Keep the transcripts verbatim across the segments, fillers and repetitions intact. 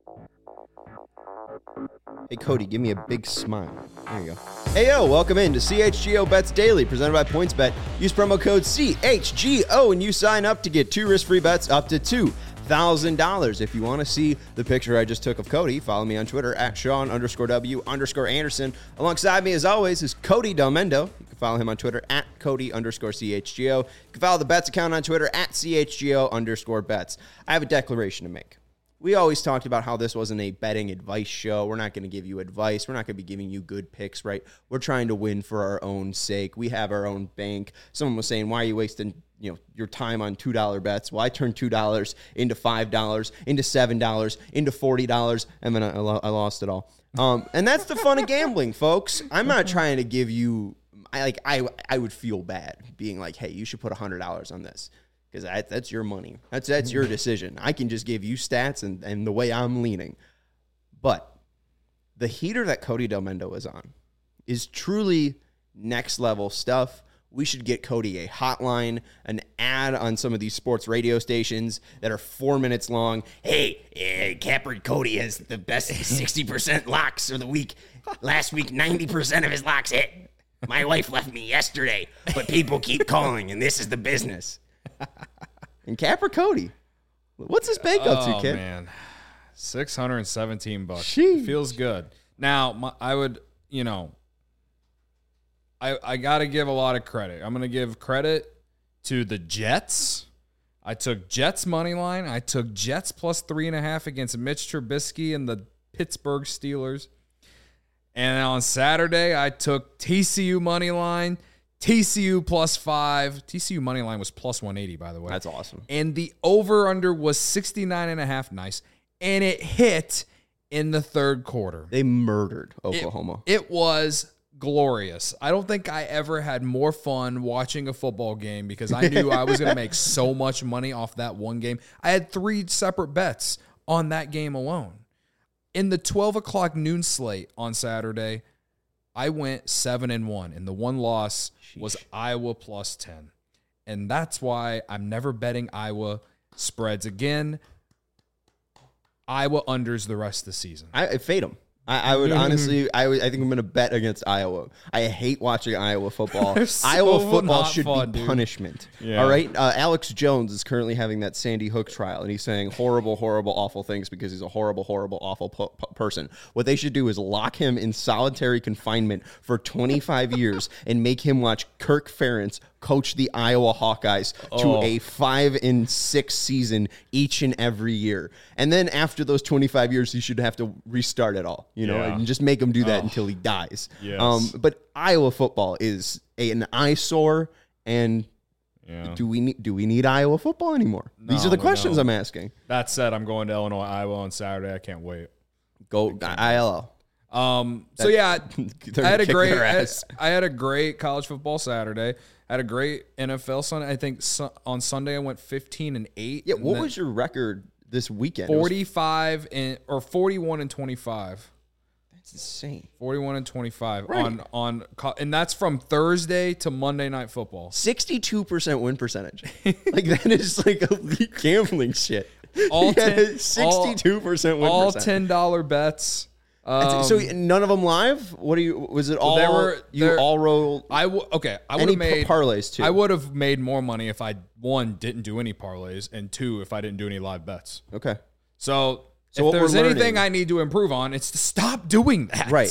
Hey, Cody, give me a big smile. There you go. Hey, yo, welcome in to C H G O Bets Daily, presented by PointsBet. Use promo code C H G O and you sign up to get two risk-free bets up to two thousand dollars. If you want to see the picture I just took of Cody, follow me on Twitter at Sean underscore W underscore Anderson. Alongside me, as always, is Cody Delmendo. You can follow him on Twitter at Cody underscore C H G O. You can follow the Bets account on Twitter at C H G O underscore Bets. I have a declaration to make. We always talked about how this wasn't a betting advice show. We're not going to give you advice. We're not going to be giving you good picks, right? We're trying to win for our own sake. We have our own bank. Someone was saying, why are you wasting, you know, your time on two dollar bets? Well, I turned two dollars into five dollars, into seven dollars, into forty dollars, and then I, I lost it all. Um, and that's the fun of gambling, folks. I'm not trying to give you, I like, I, I would feel bad being like, hey, you should put one hundred dollars on this. Because that, that's your money. That's that's your decision. I can just give you stats and, and the way I'm leaning. But the heater that Cody Delmendo is on is truly next level stuff. We should get Cody a hotline, an ad on some of these sports radio stations that are four minutes long. Hey, uh, Capper Cody has the best sixty percent locks of the week. Last week, ninety percent of his locks hit. My wife left me yesterday, but people keep calling, and this is the business. And Capper Cody, what's his bank up to, oh, kid? Oh, man. six hundred seventeen bucks. Sheesh. Feels good. Now, my, I would, you know, I, I got to give a lot of credit. I'm going to give credit to the Jets. I took Jets money line. I took Jets plus three and a half against Mitch Trubisky and the Pittsburgh Steelers. And on Saturday, I took T C U money line. T C U plus five. T C U money line was plus one eighty, by the way. That's awesome. And the over-under was sixty-nine and a half. Nice. And it hit in the third quarter. They murdered Oklahoma. It, it was glorious. I don't think I ever had more fun watching a football game because I knew I was going to make so much money off that one game. I had three separate bets on that game alone. In the twelve o'clock noon slate on Saturday, I went seven and one, and the one loss Sheesh. was Iowa plus ten. And that's why I'm never betting Iowa spreads again. Iowa unders the rest of the season. I, I fade them. I, I would honestly, I, would, I think I'm going to bet against Iowa. I hate watching Iowa football. so Iowa football should fun, be dude. punishment. Yeah. All right? Uh, Alex Jones is currently having that Sandy Hook trial, and he's saying horrible, horrible, awful things because he's a horrible, horrible, awful po- po- person. What they should do is lock him in solitary confinement for twenty-five years and make him watch Kirk Ferentz coach the Iowa Hawkeyes oh. to a five and six season each and every year. And then after those twenty-five years, he should have to restart it all, you know, yeah. and just make him do that oh. until he dies. Yes. Um, but Iowa football is a, an eyesore, and yeah. do we need do we need Iowa football anymore? No, These are the we questions don't. I'm asking. That said, I'm going to Illinois, Iowa on Saturday. I can't wait. Go I L L. Um. So yeah, They're I had gonna a kick great. their I, ass. I had a great college football Saturday. I had a great N F L Sunday. I think su- on Sunday I went fifteen and eight. Yeah, and what then was your record this weekend? It was- forty-five and or forty-one and twenty-five. That's insane. forty-one and twenty-five Right. on on co- and that's from Thursday to Monday Night Football. sixty-two percent win percentage. Like that is like elite gambling shit. All ten, sixty-two percent win all percent. ten dollar bets. Um, so none of them live? What do you? Was it all? there were- you there- all rolled. I w- okay. I would Any have made par- parlays too. I would have made more money if I one didn't do any parlays and two if I didn't do any live bets. Okay. So, So if what there's we're anything learning- I need to improve on, it's to stop doing that. Right.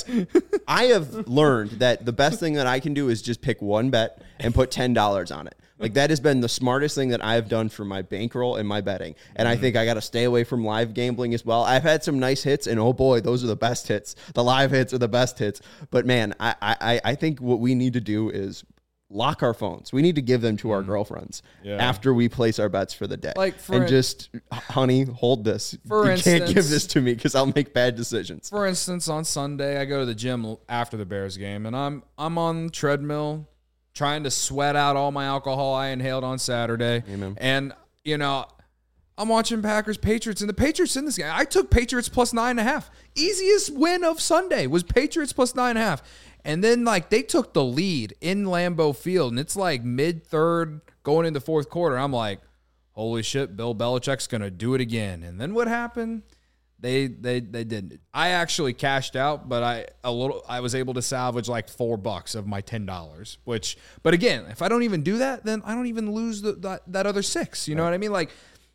I have learned that the best thing that I can do is just pick one bet and put ten dollars on it. Like that has been the smartest thing that I've done for my bankroll and my betting. And I think I got to stay away from live gambling as well. I've had some nice hits, and oh boy, those are the best hits. The live hits are the best hits. But man, I I, I think what we need to do is lock our phones. We need to give them to our girlfriends Yeah. after we place our bets for the day. Like, for and in- just, honey, hold this. For you instance- can't give this to me because I'll make bad decisions. For instance, on Sunday I go to the gym after the Bears game, and I'm I'm on the treadmill trying to sweat out all my alcohol I inhaled on Saturday. Amen. And you know, I'm watching Packers Patriots, and the Patriots in this game. I took Patriots plus nine and a half. Easiest win of Sunday was Patriots plus nine and a half. And then like they took the lead in Lambeau Field, and it's like mid third going into fourth quarter. I'm like, holy shit, Bill Belichick's gonna do it again. And then what happened? They they they didn't. I actually cashed out, but I a little I was able to salvage like four bucks of my ten dollars. Which, but again, if I don't even do that, then I don't even lose the, that that other six. You know what I mean? Like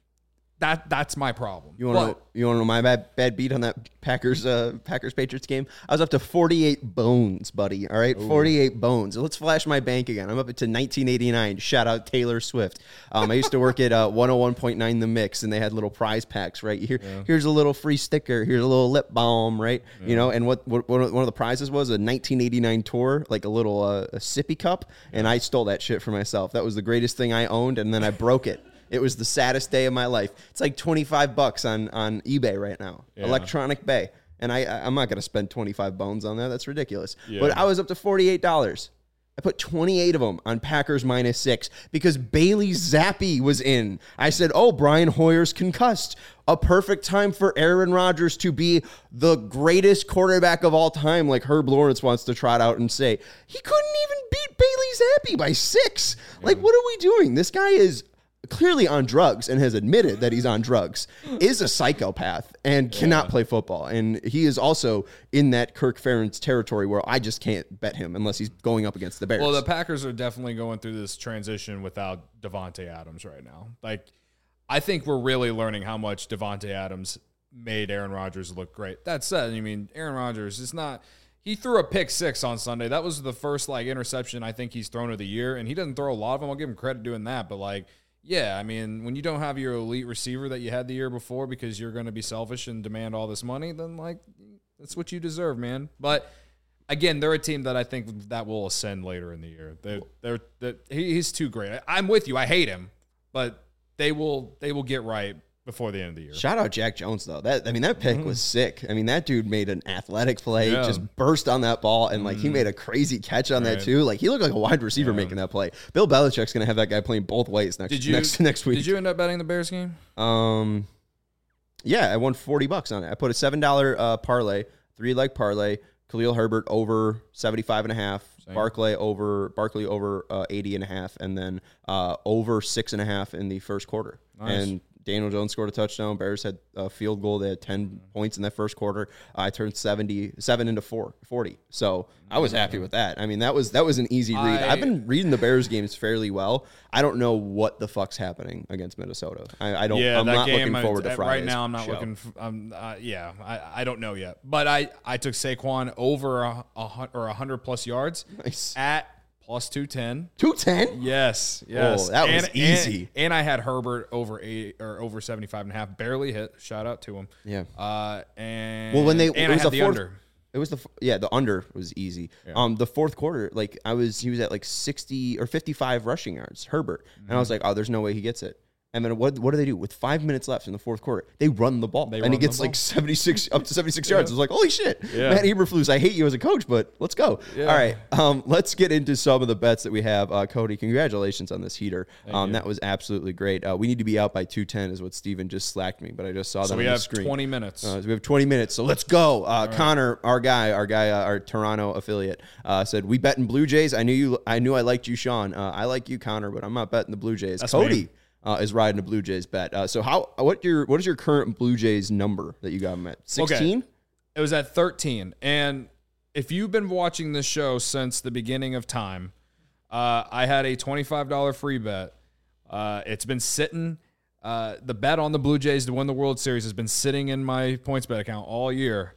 that that's my problem. You want to you want to know my bad bad beat on that Packers uh, Packers Patriots game? I was up to forty-eight bones, buddy. All right, Ooh. forty-eight bones. Let's flash my bank again. I'm up to nineteen eighty-nine. Shout out Taylor Swift. Um, I used to work at uh, one oh one point nine The Mix, and they had little prize packs. Right here, yeah. here's a little free sticker. Here's a little lip balm. Right, yeah. you know. And what, what one of the prizes was a nineteen eighty-nine tour, like a little uh, a sippy cup, and I stole that shit for myself. That was the greatest thing I owned, and then I broke it. It was the saddest day of my life. It's like twenty-five bucks on, on eBay right now. Yeah. Electronic Bay. And I, I'm not going to spend twenty-five bones on that. That's ridiculous. Yeah. But I was up to forty-eight dollars. I put twenty-eight of them on Packers minus six because Bailey Zappi was in. I said, oh, Brian Hoyer's concussed. A perfect time for Aaron Rodgers to be the greatest quarterback of all time, like Herb Lawrence wants to trot out and say. He couldn't even beat Bailey Zappi by six. Yeah. Like, what are we doing? This guy is clearly on drugs and has admitted that he's on drugs, is a psychopath and cannot yeah. play football. And he is also in that Kirk Ferentz territory where I just can't bet him unless he's going up against the Bears. Well, the Packers are definitely going through this transition without Davante Adams right now. Like, I think we're really learning how much Davante Adams made Aaron Rodgers look great. That said, I mean, Aaron Rodgers is not... He threw a pick six on Sunday. That was the first, like, interception I think he's thrown of the year, and he doesn't throw a lot of them. I'll give him credit doing that, but, like, yeah, I mean, when you don't have your elite receiver that you had the year before because you're going to be selfish and demand all this money, then, like, that's what you deserve, man. But, again, they're a team that I think that will ascend later in the year. They're, they're, they're, he's too great. I'm with you. I hate him, but they will they will get right before the end of the year. Shout out Jack Jones, though. That I mean, that pick mm-hmm. was sick. I mean, that dude made an athletic play, yeah. just burst on that ball, and, like, mm-hmm. he made a crazy catch on right. that, too. Like, he looked like a wide receiver yeah. making that play. Bill Belichick's going to have that guy playing both ways next, did you, next, next week. Did you end up betting the Bears game? Um, Yeah, I won forty bucks on it. I put a seven dollar uh, parlay, three-leg parlay, Khalil Herbert over seventy-five and a half, Same. Barkley over Barkley over uh, eighty and a half, and then uh, over six and a half in the first quarter. Nice. And Daniel Jones scored a touchdown. Bears had a field goal. They had ten mm-hmm. points in that first quarter. I turned seventy-seven into four, forty. So I was happy with that. I mean, that was that was an easy read. I, I've been reading the Bears games fairly well. I don't know what the fuck's happening against Minnesota. I, I don't. Yeah, I'm not game, looking forward I, to Friday's Right now, I'm not show. looking. For, um, uh, yeah, I, I don't know yet. But I, I took Saquon over a, a or a hundred plus yards nice. at plus two ten. two ten? Yes. Yes. Oh, that and, was easy. And, and I had Herbert over eight or over seventy-five and a half. Barely hit. Shout out to him. Yeah. Uh, and well, when they and it I was had the, the fourth, under. It was the yeah the under was easy. Yeah. Um, the fourth quarter, like I was, he was at like sixty or fifty-five rushing yards, Herbert, mm-hmm. and I was like, oh, there's no way he gets it. And then what what do they do with five minutes left in the fourth quarter? They run the ball, they and he gets like seventy-six up to seventy-six yeah. yards. I was like, holy shit, yeah. Matt Eberflus, I hate you as a coach, but let's go. Yeah. All right, um, let's get into some of the bets that we have. Uh, Cody, congratulations on this heater. Um, that was absolutely great. Uh, we need to be out by two ten, is what Steven just slacked me, but I just saw so that we on have the screen. twenty minutes. Uh, so we have twenty minutes, so let's go. Uh, right. Connor, our guy, our guy, uh, our Toronto affiliate, uh, said we bet in Blue Jays. I knew you. I knew I liked you, Sean. Uh, I like you, Connor, but I'm not betting the Blue Jays. That's Cody. Me. Uh, is riding a Blue Jays bet. Uh, so how what your what is your current Blue Jays number that you got them at? sixteen? Okay. It was at thirteen. And if you've been watching this show since the beginning of time, uh, I had a twenty-five dollar free bet. Uh, it's been sitting. Uh, the bet on the Blue Jays to win the World Series has been sitting in my PointsBet account all year.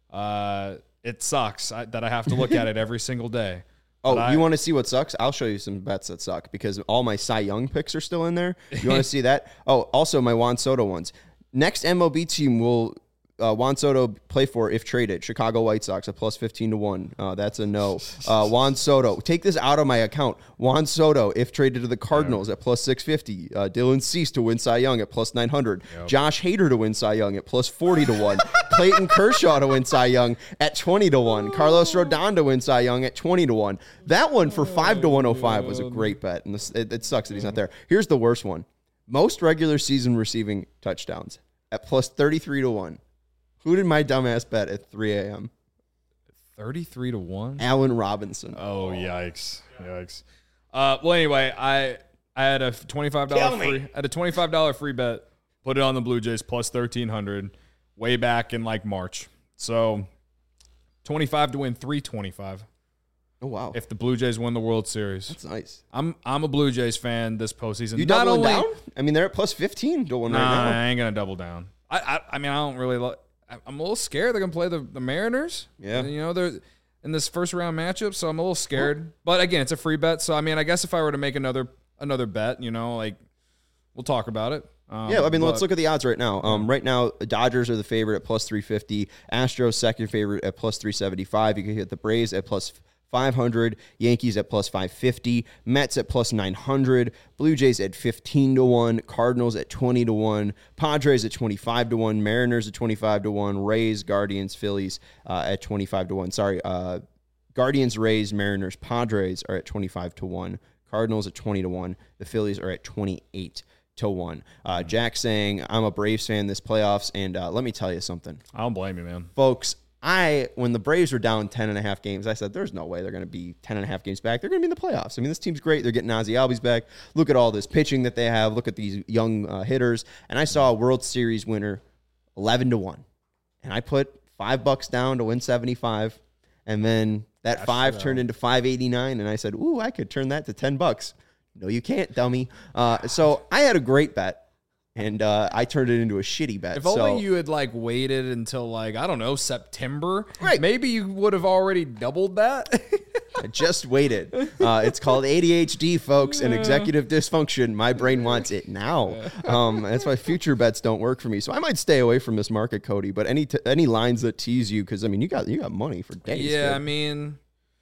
Uh, it sucks I, that I have to look at it every single day. Oh, I, you want to see what sucks? I'll show you some bets that suck because all my Cy Young picks are still in there. You want to see that? Oh, also my Juan Soto ones. Next M L B team will uh, Juan Soto play for if traded. Chicago White Sox at plus fifteen to one. Uh, that's a no. Uh, Juan Soto. Take this out of my account. Juan Soto if traded to the Cardinals yeah. at plus six fifty. Uh, Dylan Cease to win Cy Young at plus nine hundred. Yep. Josh Hader to win Cy Young at plus forty to one. Clayton Kershaw to win Cy Young at twenty to one. Carlos Rodon to win Cy Young at twenty to one. That one for five to one oh five was a great bet. And this, it, it sucks that he's not there. Here's the worst one. Most regular season receiving touchdowns at plus thirty-three to one. Who did my dumbass bet at three a.m.? thirty-three to one? Allen Robinson. Oh, yikes. Yikes. Uh, well, anyway, I I had a twenty-five dollar free I had a twenty-five dollar free bet, put it on the Blue Jays plus thirteen hundred. way back in like March. So twenty-five to win three twenty-five. Oh wow! If the Blue Jays win the World Series, that's nice. I'm I'm a Blue Jays fan this postseason. You Not doubling only, down? I mean, they're at plus fifteen to one nah, right now. I ain't gonna double down. I I, I mean, I don't really. Lo- I'm a little scared they're gonna play the, the Mariners. Yeah, and, you know they're in this first round matchup, so I'm a little scared. But again, it's a free bet, so I mean, I guess if I were to make another another bet, you know, like we'll talk about it. Um, yeah, I mean, but, let's look at the odds right now. Um, right now, the Dodgers are the favorite at plus three fifty. Astros second favorite at plus three seventy-five. You can hit the Braves at plus five hundred. Yankees at plus five fifty. Mets at plus nine hundred. Blue Jays at fifteen to one. Cardinals at twenty to one. Padres at twenty-five to one. Mariners at twenty-five to one. Rays, Guardians, Phillies uh, at twenty-five to one. Sorry, uh, Guardians, Rays, Mariners, Padres are at twenty-five to one. Cardinals at twenty to one. The Phillies are at twenty-eight to one. Uh, Jack saying, I'm a Braves fan this playoffs, and uh, let me tell you something. I don't blame you, man. Folks, I when the Braves were down ten and a half games, I said, there's no way they're going to be ten and a half games back. They're going to be in the playoffs. I mean, this team's great. They're getting Ozzie Albies back. Look at all this pitching that they have. Look at these young uh, hitters. And I saw a World Series winner eleven to one. And I put five bucks down to win seventy-five. And then that Gosh, five no. turned into five eighty-nine. And I said, ooh, I could turn that to ten bucks. No, you can't, dummy. Uh, so I had a great bet, and uh, I turned it into a shitty bet. If so, only you had like waited until like, I don't know, September. Right. Maybe you would have already doubled that. I just waited. Uh, it's called A D H D, folks, and executive dysfunction. My brain wants it now. Um, that's why future bets don't work for me. So I might stay away from this market, Cody. But any t- any lines that tease you, because I mean, you got you got money for days. Yeah, dude. I mean.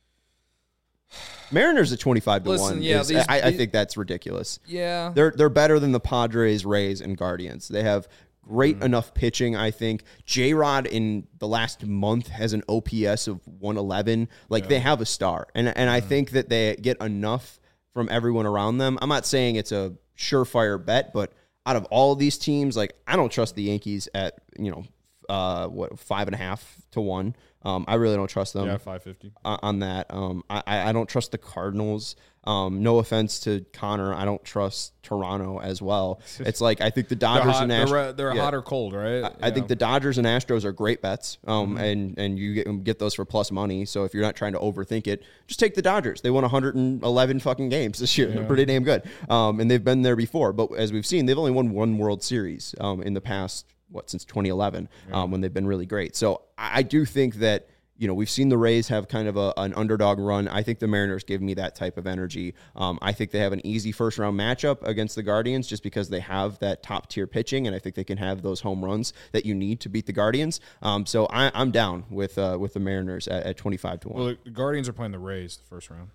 Mariners at twenty-five to Listen, one. Yeah, is, these, I, I these, think that's ridiculous. Yeah. They're they're better than the Padres, Rays, and Guardians. They have great mm-hmm. enough pitching, I think. J-Rod in the last month has an O P S of one eleven. Like, yeah. they have a star. And, and mm-hmm. I think that they get enough from everyone around them. I'm not saying it's a surefire bet, but out of all of these teams, like, I don't trust the Yankees at, you know, uh, what, five and a half to one. Um, I really don't trust them. Yeah, five fifty uh, on that. Um, I I don't trust the Cardinals. Um, no offense to Connor, I don't trust Toronto as well. It's like I think the Dodgers hot, and Astros they're, they're yeah. hot or cold, right? I, I think the Dodgers and Astros are great bets. Um, mm-hmm. and and you get get those for plus money. So if you're not trying to overthink it, just take the Dodgers. They won one hundred eleven fucking games this year. Yeah. They're pretty damn good. Um, and they've been there before. But as we've seen, they've only won one World Series. Um, in the past what since twenty eleven. Yeah. Um, when they've been really great. So I, I do think that. You know, we've seen the Rays have kind of a, an underdog run. I think the Mariners give me that type of energy. Um, I think they have an easy first-round matchup against the Guardians just because they have that top-tier pitching, and I think they can have those home runs that you need to beat the Guardians. Um, so I, I'm down with uh, with the Mariners at, at twenty-five to one. Well, the Guardians are playing the Rays the first round.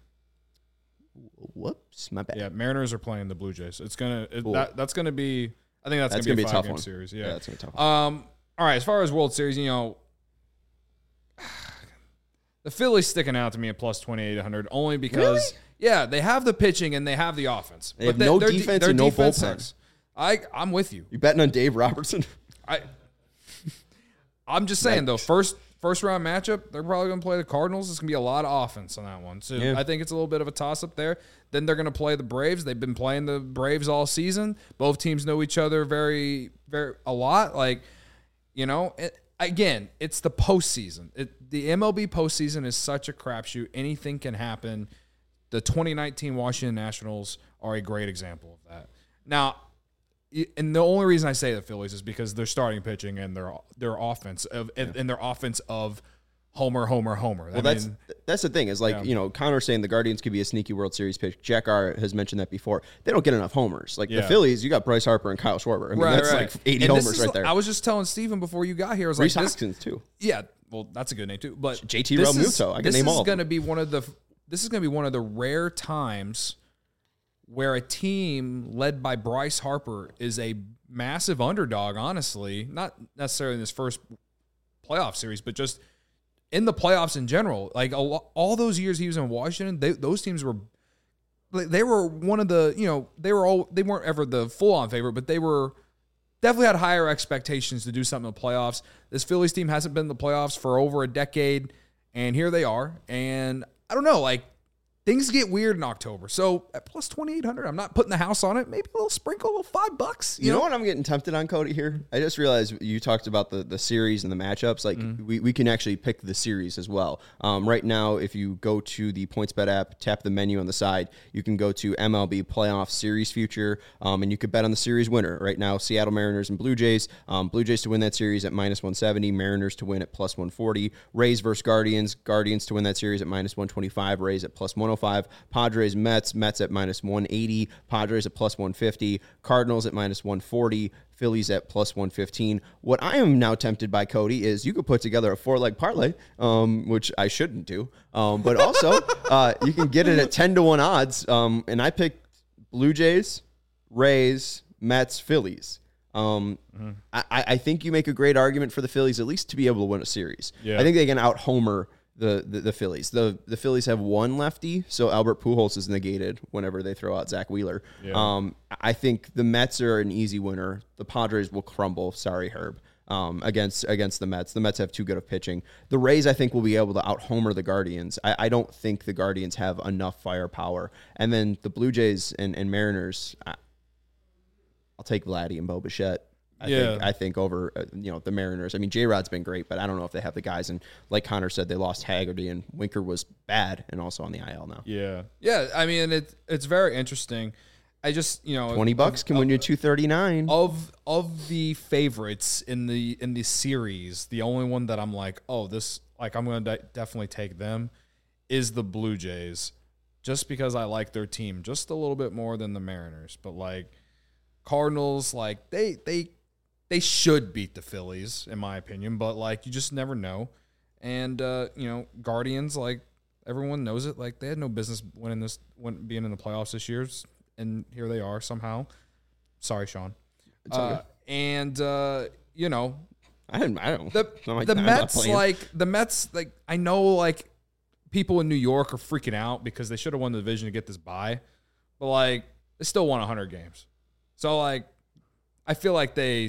Whoops, my bad. Yeah, Mariners are playing the Blue Jays. It's gonna it, that, that's gonna be. I think that's, that's gonna, gonna be a, be a five tough game one. series. Yeah, yeah that's gonna be a tough one. Um, all right, as far as World Series, you know. The Phillies sticking out to me at plus twenty-eight hundred only because, really? yeah, they have the pitching and they have the offense. They have no defense and no bullpen. Sucks. I, I'm with you. You betting on Dave Robertson? I, I'm just saying, though, first first round matchup, they're probably going to play the Cardinals. It's going to be a lot of offense on that one. So yeah. I think it's a little bit of a toss-up there. Then they're going to play the Braves. They've been playing the Braves all season. Both teams know each other very, very a lot. Like, you know, it, again, it's the postseason. It, the M L B postseason is such a crapshoot. Anything can happen. The twenty nineteen Washington Nationals are a great example of that. Now, and the only reason I say the Phillies is because they're starting pitching and their their offense of yeah. and their offense of homer, homer, homer. Well, I that's mean, that's the thing is like yeah. you know Connor saying the Guardians could be a sneaky World Series pitch. Jack R has mentioned that before. They don't get enough homers. Like yeah. the Phillies, you got Bryce Harper and Kyle Schwarber. I mean, right, that's right. like eighty and homers is, right there. I was just telling Steven before you got here. I was Rhys like, Hoskins too. Yeah, well, that's a good name too. But J T Realmuto, I can name all. This is going to be one of the. This is going to be one of the rare times where a team led by Bryce Harper is a massive underdog. Honestly, not necessarily in this first playoff series, but just in the playoffs in general. Like a, all those years he was in Washington, they, those teams were. They were one of the. You know, they were all. They weren't ever the full-on favorite, but they were. Definitely had higher expectations to do something in the playoffs. This Phillies team hasn't been in the playoffs for over a decade, and here they are. And I don't know, like, things get weird in October. So at plus twenty-eight hundred, I'm not putting the house on it. Maybe a little sprinkle, a little five bucks. You, you know? know what I'm getting tempted on, Cody, here? I just realized you talked about the, the series and the matchups. Like, mm. we, we can actually pick the series as well. Um, right now, if you go to the PointsBet app, tap the menu on the side, you can go to M L B Playoff Series Future, um, and you could bet on the series winner. Right now, Seattle Mariners and Blue Jays. Um, Blue Jays to win that series at minus one seventy, Mariners to win at plus one forty, Rays versus Guardians, Guardians to win that series at minus one twenty-five, Rays at plus one oh five, Padres Padres, Mets, Mets at minus one eighty, Padres at plus one fifty, Cardinals at minus one forty, Phillies at plus one fifteen. What I am now tempted by, Cody, is you could put together a four-leg parlay, um, which I shouldn't do, um, but also uh, you can get it at ten to one odds, um, and I picked Blue Jays, Rays, Mets, Phillies. Um, mm-hmm. I, I think you make a great argument for the Phillies, at least to be able to win a series. Yeah. I think they can out-homer The, the the Phillies. The the Phillies have one lefty, so Albert Pujols is negated whenever they throw out Zach Wheeler. Yeah. Um, I think the Mets are an easy winner. The Padres will crumble. Sorry, Herb. Um, against against the Mets. The Mets have too good of pitching. The Rays, I think, will be able to out-homer the Guardians. I, I don't think the Guardians have enough firepower. And then the Blue Jays and, and Mariners, I, I'll take Vladdy and Bo Bichette. I yeah. think I think over uh, you know the Mariners. I mean, J-Rod's been great, but I don't know if they have the guys. And like Connor said, they lost Haggerty, and Winker was bad and also on the I L now. Yeah, yeah. I mean, it it's very interesting. I just you know twenty bucks can of, win you two thirty nine. Of of the favorites in the in the series, the only one that I'm like, oh, this like I'm going to de- definitely take them is the Blue Jays, just because I like their team just a little bit more than the Mariners. But like Cardinals, like they they. They should beat the Phillies, in my opinion, but, like, you just never know. And, uh, you know, Guardians, like, everyone knows it. Like, they had no business winning this, win, being in the playoffs this year, and here they are somehow. Sorry, Sean. It's uh, okay. And, uh, you know. I didn't, I don't. The, like, the Mets, like, the Mets, like, I know, like, people in New York are freaking out because they should have won the division to get this bye. But, like, they still won one hundred games. So, like, I feel like they...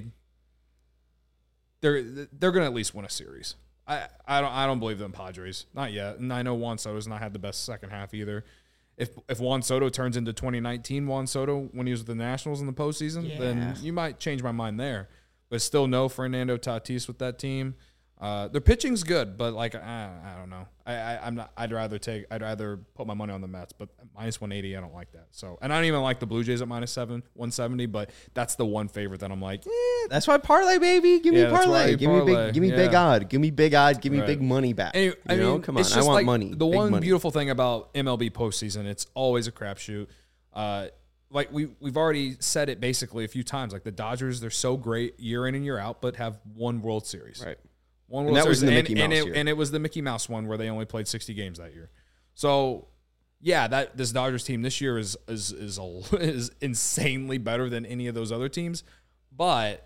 They're they're gonna at least win a series. I, I don't I don't believe them Padres, not yet. And I know Juan Soto's not had the best second half either. If if Juan Soto turns into twenty nineteen Juan Soto when he was with the Nationals in the postseason, yeah. then you might change my mind there. But still no Fernando Tatis with that team. Uh, their pitching's good, but like I, I don't know. I, I I'm not. I'd rather take. I'd rather put my money on the Mets, but minus one eighty, I don't like that. So, and I don't even like the Blue Jays at minus seven, one seventy. But that's the one favorite that I'm like. Eh. That's why parlay, baby. Give me yeah, parlay. Give parlay. me big. Give me yeah. big odd. Give me big odd. Give me right. big money back. And, I you mean, know? Come on, it's just I want like money. The big one money. beautiful thing about M L B postseason, it's always a crapshoot. Uh, like we we've already said it basically a few times. Like the Dodgers, they're so great year in and year out, but have one World Series. Right. One World and that Series, was the Mickey and, Mouse and it, year. And it was the Mickey Mouse one where they only played sixty games that year. So, yeah, that this Dodgers team this year is is is, a, is insanely better than any of those other teams. But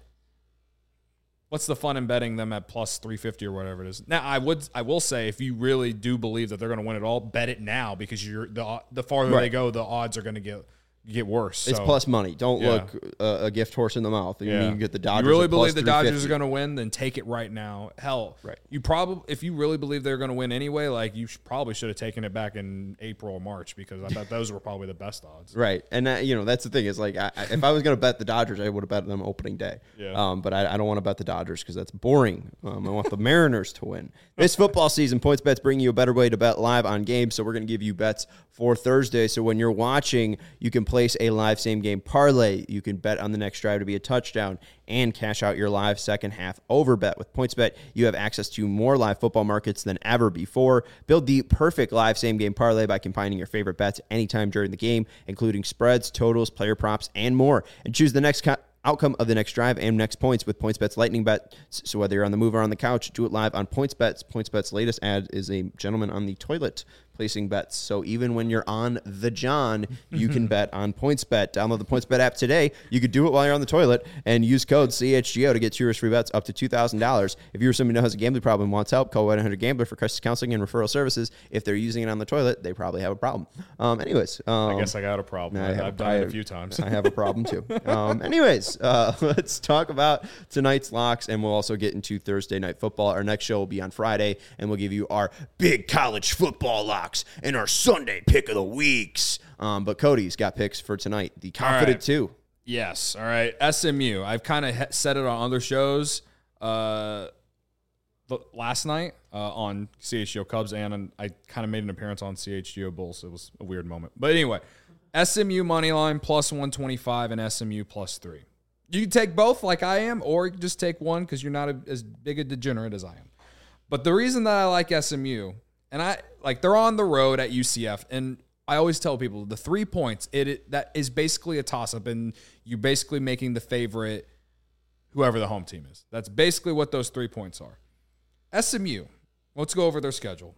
what's the fun in betting them at plus three fifty or whatever it is? Now, I would I will say if you really do believe that they're going to win it all, bet it now because you're the the farther right. they go, the odds are going to get get worse. It's so, plus money. Don't yeah. look uh, a gift horse in the mouth. You, yeah. you get the Dodgers. You really believe the Dodgers are going to win? Then take it right now. Hell, right. You probably if you really believe they're going to win anyway, like you should, probably should have taken it back in April or March because I thought those were probably the best odds. Right, and that, you know that's the thing is like I, if I was going to bet the Dodgers, I would have bet them opening day. Yeah. Um, but I, I don't want to bet the Dodgers because that's boring. Um, I want the Mariners to win. This football season, PointsBet's bringing you a better way to bet live on games. So we're going to give you bets for Thursday. So when you're watching, you can place a live same game parlay. You can bet on the next drive to be a touchdown and cash out your live second half over bet. With PointsBet, you have access to more live football markets than ever before. Build the perfect live same game parlay by combining your favorite bets anytime during the game, including spreads, totals, player props, and more. And choose the next co- outcome of the next drive and next points with PointsBet's Lightning Bet. So whether you're on the move or on the couch, do it live on PointsBet. PointsBet's latest ad is a gentleman on the toilet placing bets. So even when you're on the John, you can bet on PointsBet. Download the PointsBet app today. You could do it while you're on the toilet and use code C H G O to get two risk-free bets up to two thousand dollars. If you're someone who has a gambling problem and wants help, call one eight hundred gambler for crisis counseling and referral services. If they're using it on the toilet, they probably have a problem. Um, anyways. Um, I guess I got a problem. I have, I've done I, it a few times. I have a problem too. Um, anyways, uh, let's talk about tonight's locks, and we'll also get into Thursday night football. Our next show will be on Friday, and we'll give you our big college football lock locks and our Sunday pick of the weeks. Um, but Cody's got picks for tonight. The Confident right. two. Yes. All right. S M U. I've kind of said it on other shows uh, last night uh, on C H G O Cubs, and I kind of made an appearance on C H G O Bulls. It was a weird moment. But anyway, S M U money line plus one twenty-five and S M U plus three. You can take both like I am, or you can just take one because you're not a, as big a degenerate as I am. But the reason that I like S M U, and I like they're on the road at U C F, and I always tell people the three points, it, it that is basically a toss-up, and you're basically making the favorite whoever the home team is. That's basically what those three points are. S M U, let's go over their schedule.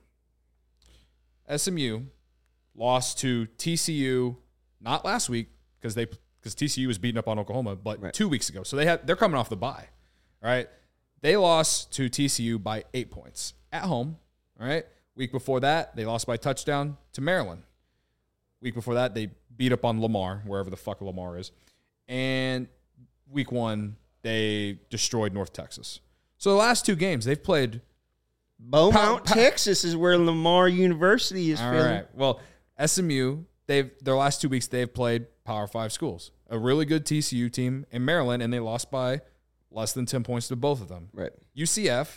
S M U lost to T C U not last week because they because T C U was beating up on Oklahoma, but right. two weeks ago. So they had they're coming off the bye. All right. They lost to T C U by eight points at home. All right. Week before that, they lost by touchdown to Maryland. Week before that, they beat up on Lamar, wherever the fuck Lamar is. And week one, they destroyed North Texas. So the last two games, they've played. Beaumont, pa- pa- Texas is where Lamar University is. All feeling. right. Well, S M U, they've their last two weeks, they've played Power Five schools. A really good T C U team in Maryland, and they lost by less than ten points to both of them. Right. U C F,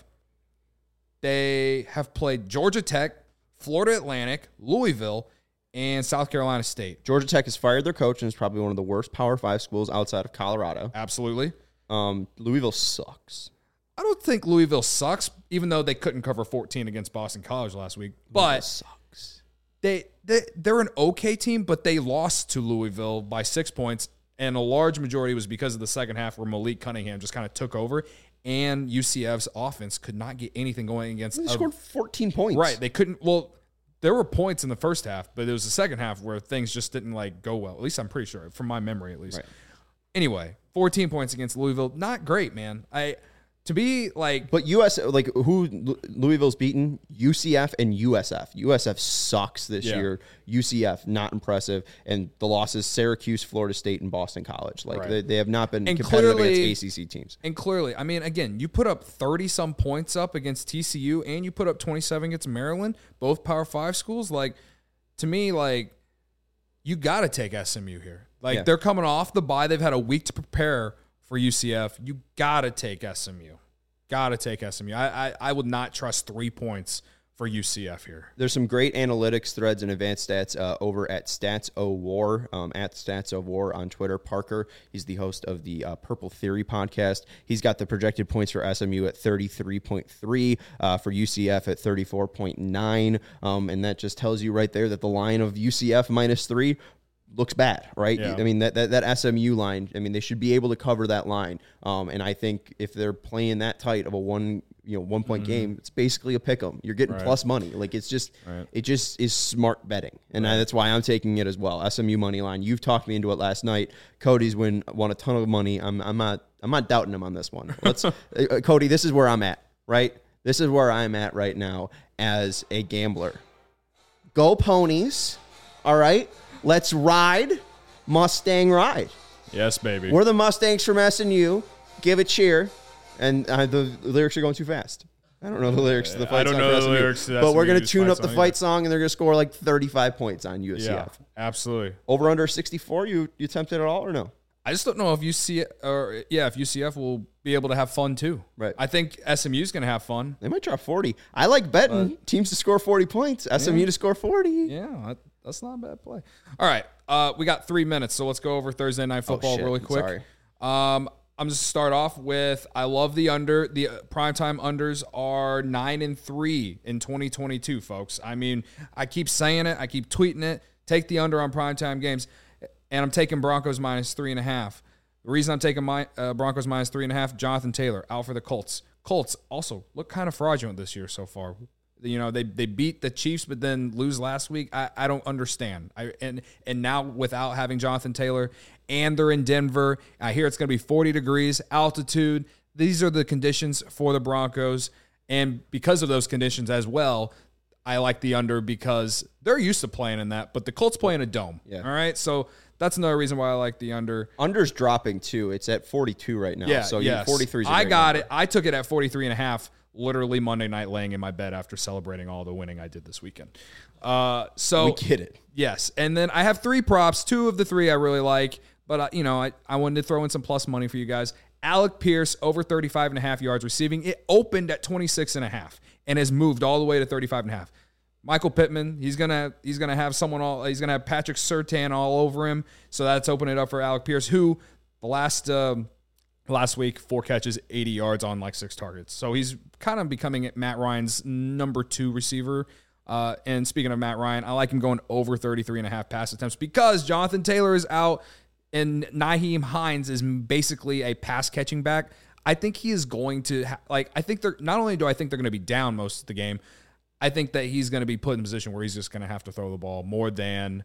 they have played Georgia Tech, Florida Atlantic, Louisville, and South Carolina State. Georgia Tech has fired their coach and is probably one of the worst Power Five schools outside of Colorado. Absolutely. Um, Louisville sucks. I don't think Louisville sucks, even though they couldn't cover fourteen against Boston College last week. But Louisville sucks. They, they, they're an okay team, but they lost to Louisville by six points, and a large majority was because of the second half where Malik Cunningham just kind of took over, and U C F's offense could not get anything going against. They a, scored fourteen points. Right. They couldn't. Well, there were points in the first half, but it was the second half where things just didn't like go well. At least I'm pretty sure, from my memory at least. Right. Anyway, fourteen points against Louisville. Not great, man. I to be like But U S like who Louisville's beaten? U C F and U S F. U S F sucks this Yeah. year. U C F not impressive, and the losses Syracuse, Florida State, and Boston College. Like Right. they, they have not been And competitive clearly- against A C C teams. And clearly, I mean, again, you put up thirty some points up against T C U, and you put up twenty-seven against Maryland, both Power Five schools. Like, to me, like, you got to take S M U here. Like, Yeah. they're coming off the bye. They've had a week to prepare for U C F. You got to take S M U. Got to take S M U. I, I I would not trust three points for U C F here. There's some great analytics threads and advanced stats uh, over at Stats O War, um, at Stats O War on Twitter. Parker, he's the host of the uh, Purple Theory podcast. He's got the projected points for S M U at thirty-three point three, uh, for U C F at thirty-four point nine, um, and that just tells you right there that the line of U C F minus three looks bad, right? Yeah. I mean, that, that that S M U line, I mean, they should be able to cover that line. Um, and I think if they're playing that tight of a one, you know, one point mm-hmm. game, it's basically a pick 'em. You're getting Right. plus money. Like it's just, right. it just is smart betting. And right. I, that's why I'm taking it as well. S M U money line. You've talked me into it last night. Cody's win, won a ton of money. I'm, I'm not, I'm not doubting him on this one. Let's, uh, Cody, this is where I'm at, right? This is where I'm at right now as a gambler. Go Ponies. All right. Let's ride. Mustang ride. Yes, baby. We're the Mustangs from S M U. Give a cheer. And uh, the lyrics are going too fast. I don't know the lyrics to the fight I don't song know for the S M U, lyrics to the but we're S M U going to tune fight up the song fight either. song, and they're going to score like thirty-five points on U C F. Yeah, absolutely. Over under sixty-four, you you tempted at all or no? I just don't know if U C F or yeah, if U C F will be able to have fun too. Right. I think S M U is going to have fun. They might drop forty. I like betting but, teams to score forty points. S M U yeah. to score forty. Yeah, that, that's not a bad play. All right, uh, we got three minutes, so let's go over Thursday Night Football oh, shit. really quick. Sorry. Um, I'm just start off with I love the under. The uh, primetime unders are nine and three in twenty twenty-two, folks. I mean, I keep saying it, I keep tweeting it. Take the under on primetime games, and I'm taking Broncos minus three and a half. The reason I'm taking my uh, Broncos minus three and a half, Jonathan Taylor out for the Colts. Colts also look kind of fraudulent this year so far. You know, they they beat the Chiefs, but then lose last week. I, I don't understand. I and and now without having Jonathan Taylor, and they're in Denver. I hear it's going to be forty degrees, altitude. These are the conditions for the Broncos, and because of those conditions as well, I like the under because they're used to playing in that. But the Colts play in a dome. Yeah. All right, so that's another reason why I like the under. Under's dropping too. It's at forty-two right now. Yeah, so yes. forty-three is a I great got number. it. I took it at forty-three and a half, literally Monday night laying in my bed after celebrating all the winning I did this weekend. Uh, so We get it. Yes. And then I have three props. Two of the three I really like, but uh, you know, I, I wanted to throw in some plus money for you guys. Alec Pierce over thirty-five and a half yards receiving. It opened at twenty-six and a half and has moved all the way to thirty-five and a half. Michael Pittman, he's gonna he's gonna have someone all he's gonna have Patrick Surtain all over him. So that's opening it up for Alec Pierce, who the last um, last week four catches, eighty yards on like six targets. So he's kind of becoming Matt Ryan's number two receiver. Uh, and speaking of Matt Ryan, I like him going over thirty-three and a half pass attempts because Jonathan Taylor is out and Nyheim Hines is basically a pass catching back. I think he is going to ha- like. I think they're not only do I think they're going to be down most of the game. I think that he's going to be put in a position where he's just going to have to throw the ball more than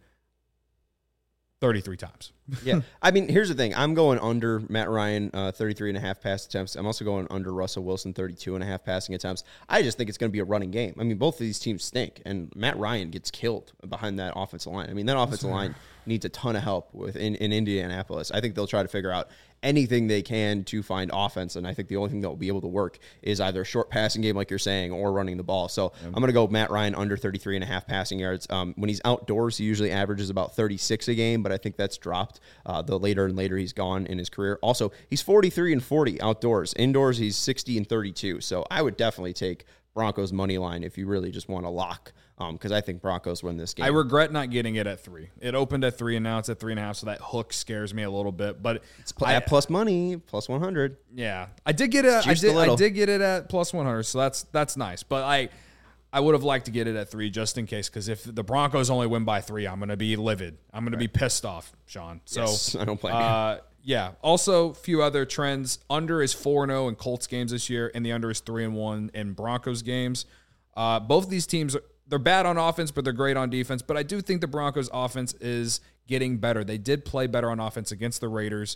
thirty-three times. Yeah. I mean, here's the thing. I'm going under Matt Ryan, uh, thirty-three and a half pass attempts. I'm also going under Russell Wilson, thirty-two and a half passing attempts. I just think it's going to be a running game. I mean, both of these teams stink, and Matt Ryan gets killed behind that offensive line. I mean, that offensive line needs a ton of help with in, in Indianapolis. I think they'll try to figure out anything they can to find offense, and I think the only thing that will be able to work is either a short passing game, like you're saying, or running the ball. So yeah. I'm going to go Matt Ryan under thirty-three and a half passing yards. Um, when he's outdoors, he usually averages about thirty-six a game, but I think that's dropped uh, the later and later he's gone in his career. Also, he's forty-three and forty outdoors. Indoors, he's sixty and thirty-two. So I would definitely take Broncos money line if you really just want to lock, because um, I think Broncos win this game. I regret not getting it at three. It opened at three, and now it's at three and a half, so that hook scares me a little bit. But it's pl- I, at plus money, plus one hundred. Yeah, I did get it. I did. I did get it at plus one hundred, so that's that's nice. But I, I would have liked to get it at three just in case, because if the Broncos only win by three, I'm going to be livid. I'm going right. to be pissed off, Sean. So yes, I don't play. Uh, yeah. Also, a few other trends. Under is four and oh in Colts games this year, and the under is three and one in Broncos games. Uh, both of these teams, they're bad on offense, but they're great on defense. But I do think the Broncos offense is getting better. They did play better on offense against the Raiders.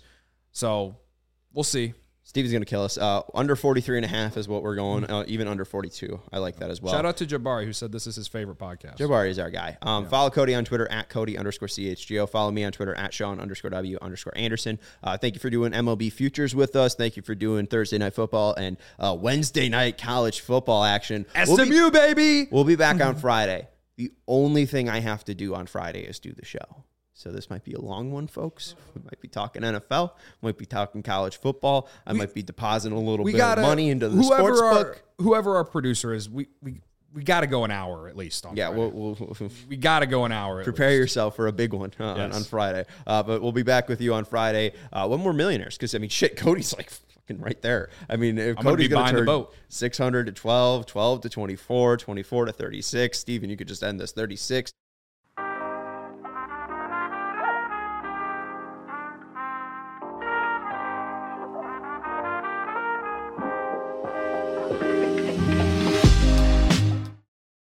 So we'll see. Stevie's going to kill us. Uh, under forty-three and a half is what we're going, uh, even under forty-two. I like that as well. Shout out to Jabari, who said this is his favorite podcast. Jabari is our guy. Um, yeah. Follow Cody on Twitter, at Cody underscore C H G O. Follow me on Twitter, at Sean underscore W underscore Anderson. Uh, thank you for doing M L B Futures with us. Thank you for doing Thursday Night Football and uh, Wednesday Night College Football action. S M U, we'll be, baby! We'll be back on Friday. The only thing I have to do on Friday is do the show. So this might be a long one, folks. We might be talking N F L. Might be talking college football. I we, might be depositing a little bit gotta, of money into the sports our, book. Whoever our producer is, we we, we got to go an hour at least on yeah, Friday. We'll, we'll, we'll, we got to go an hour. At prepare least. yourself for a big one uh, yes. on, on Friday. Uh, but we'll be back with you on Friday uh, when we're millionaires. Because, I mean, shit, Cody's like fucking right there. I mean, if I'm Cody's going to turn the boat. six hundred to twelve, twelve to twenty-four, twenty-four to thirty-six. Steven, you could just end this thirty-six.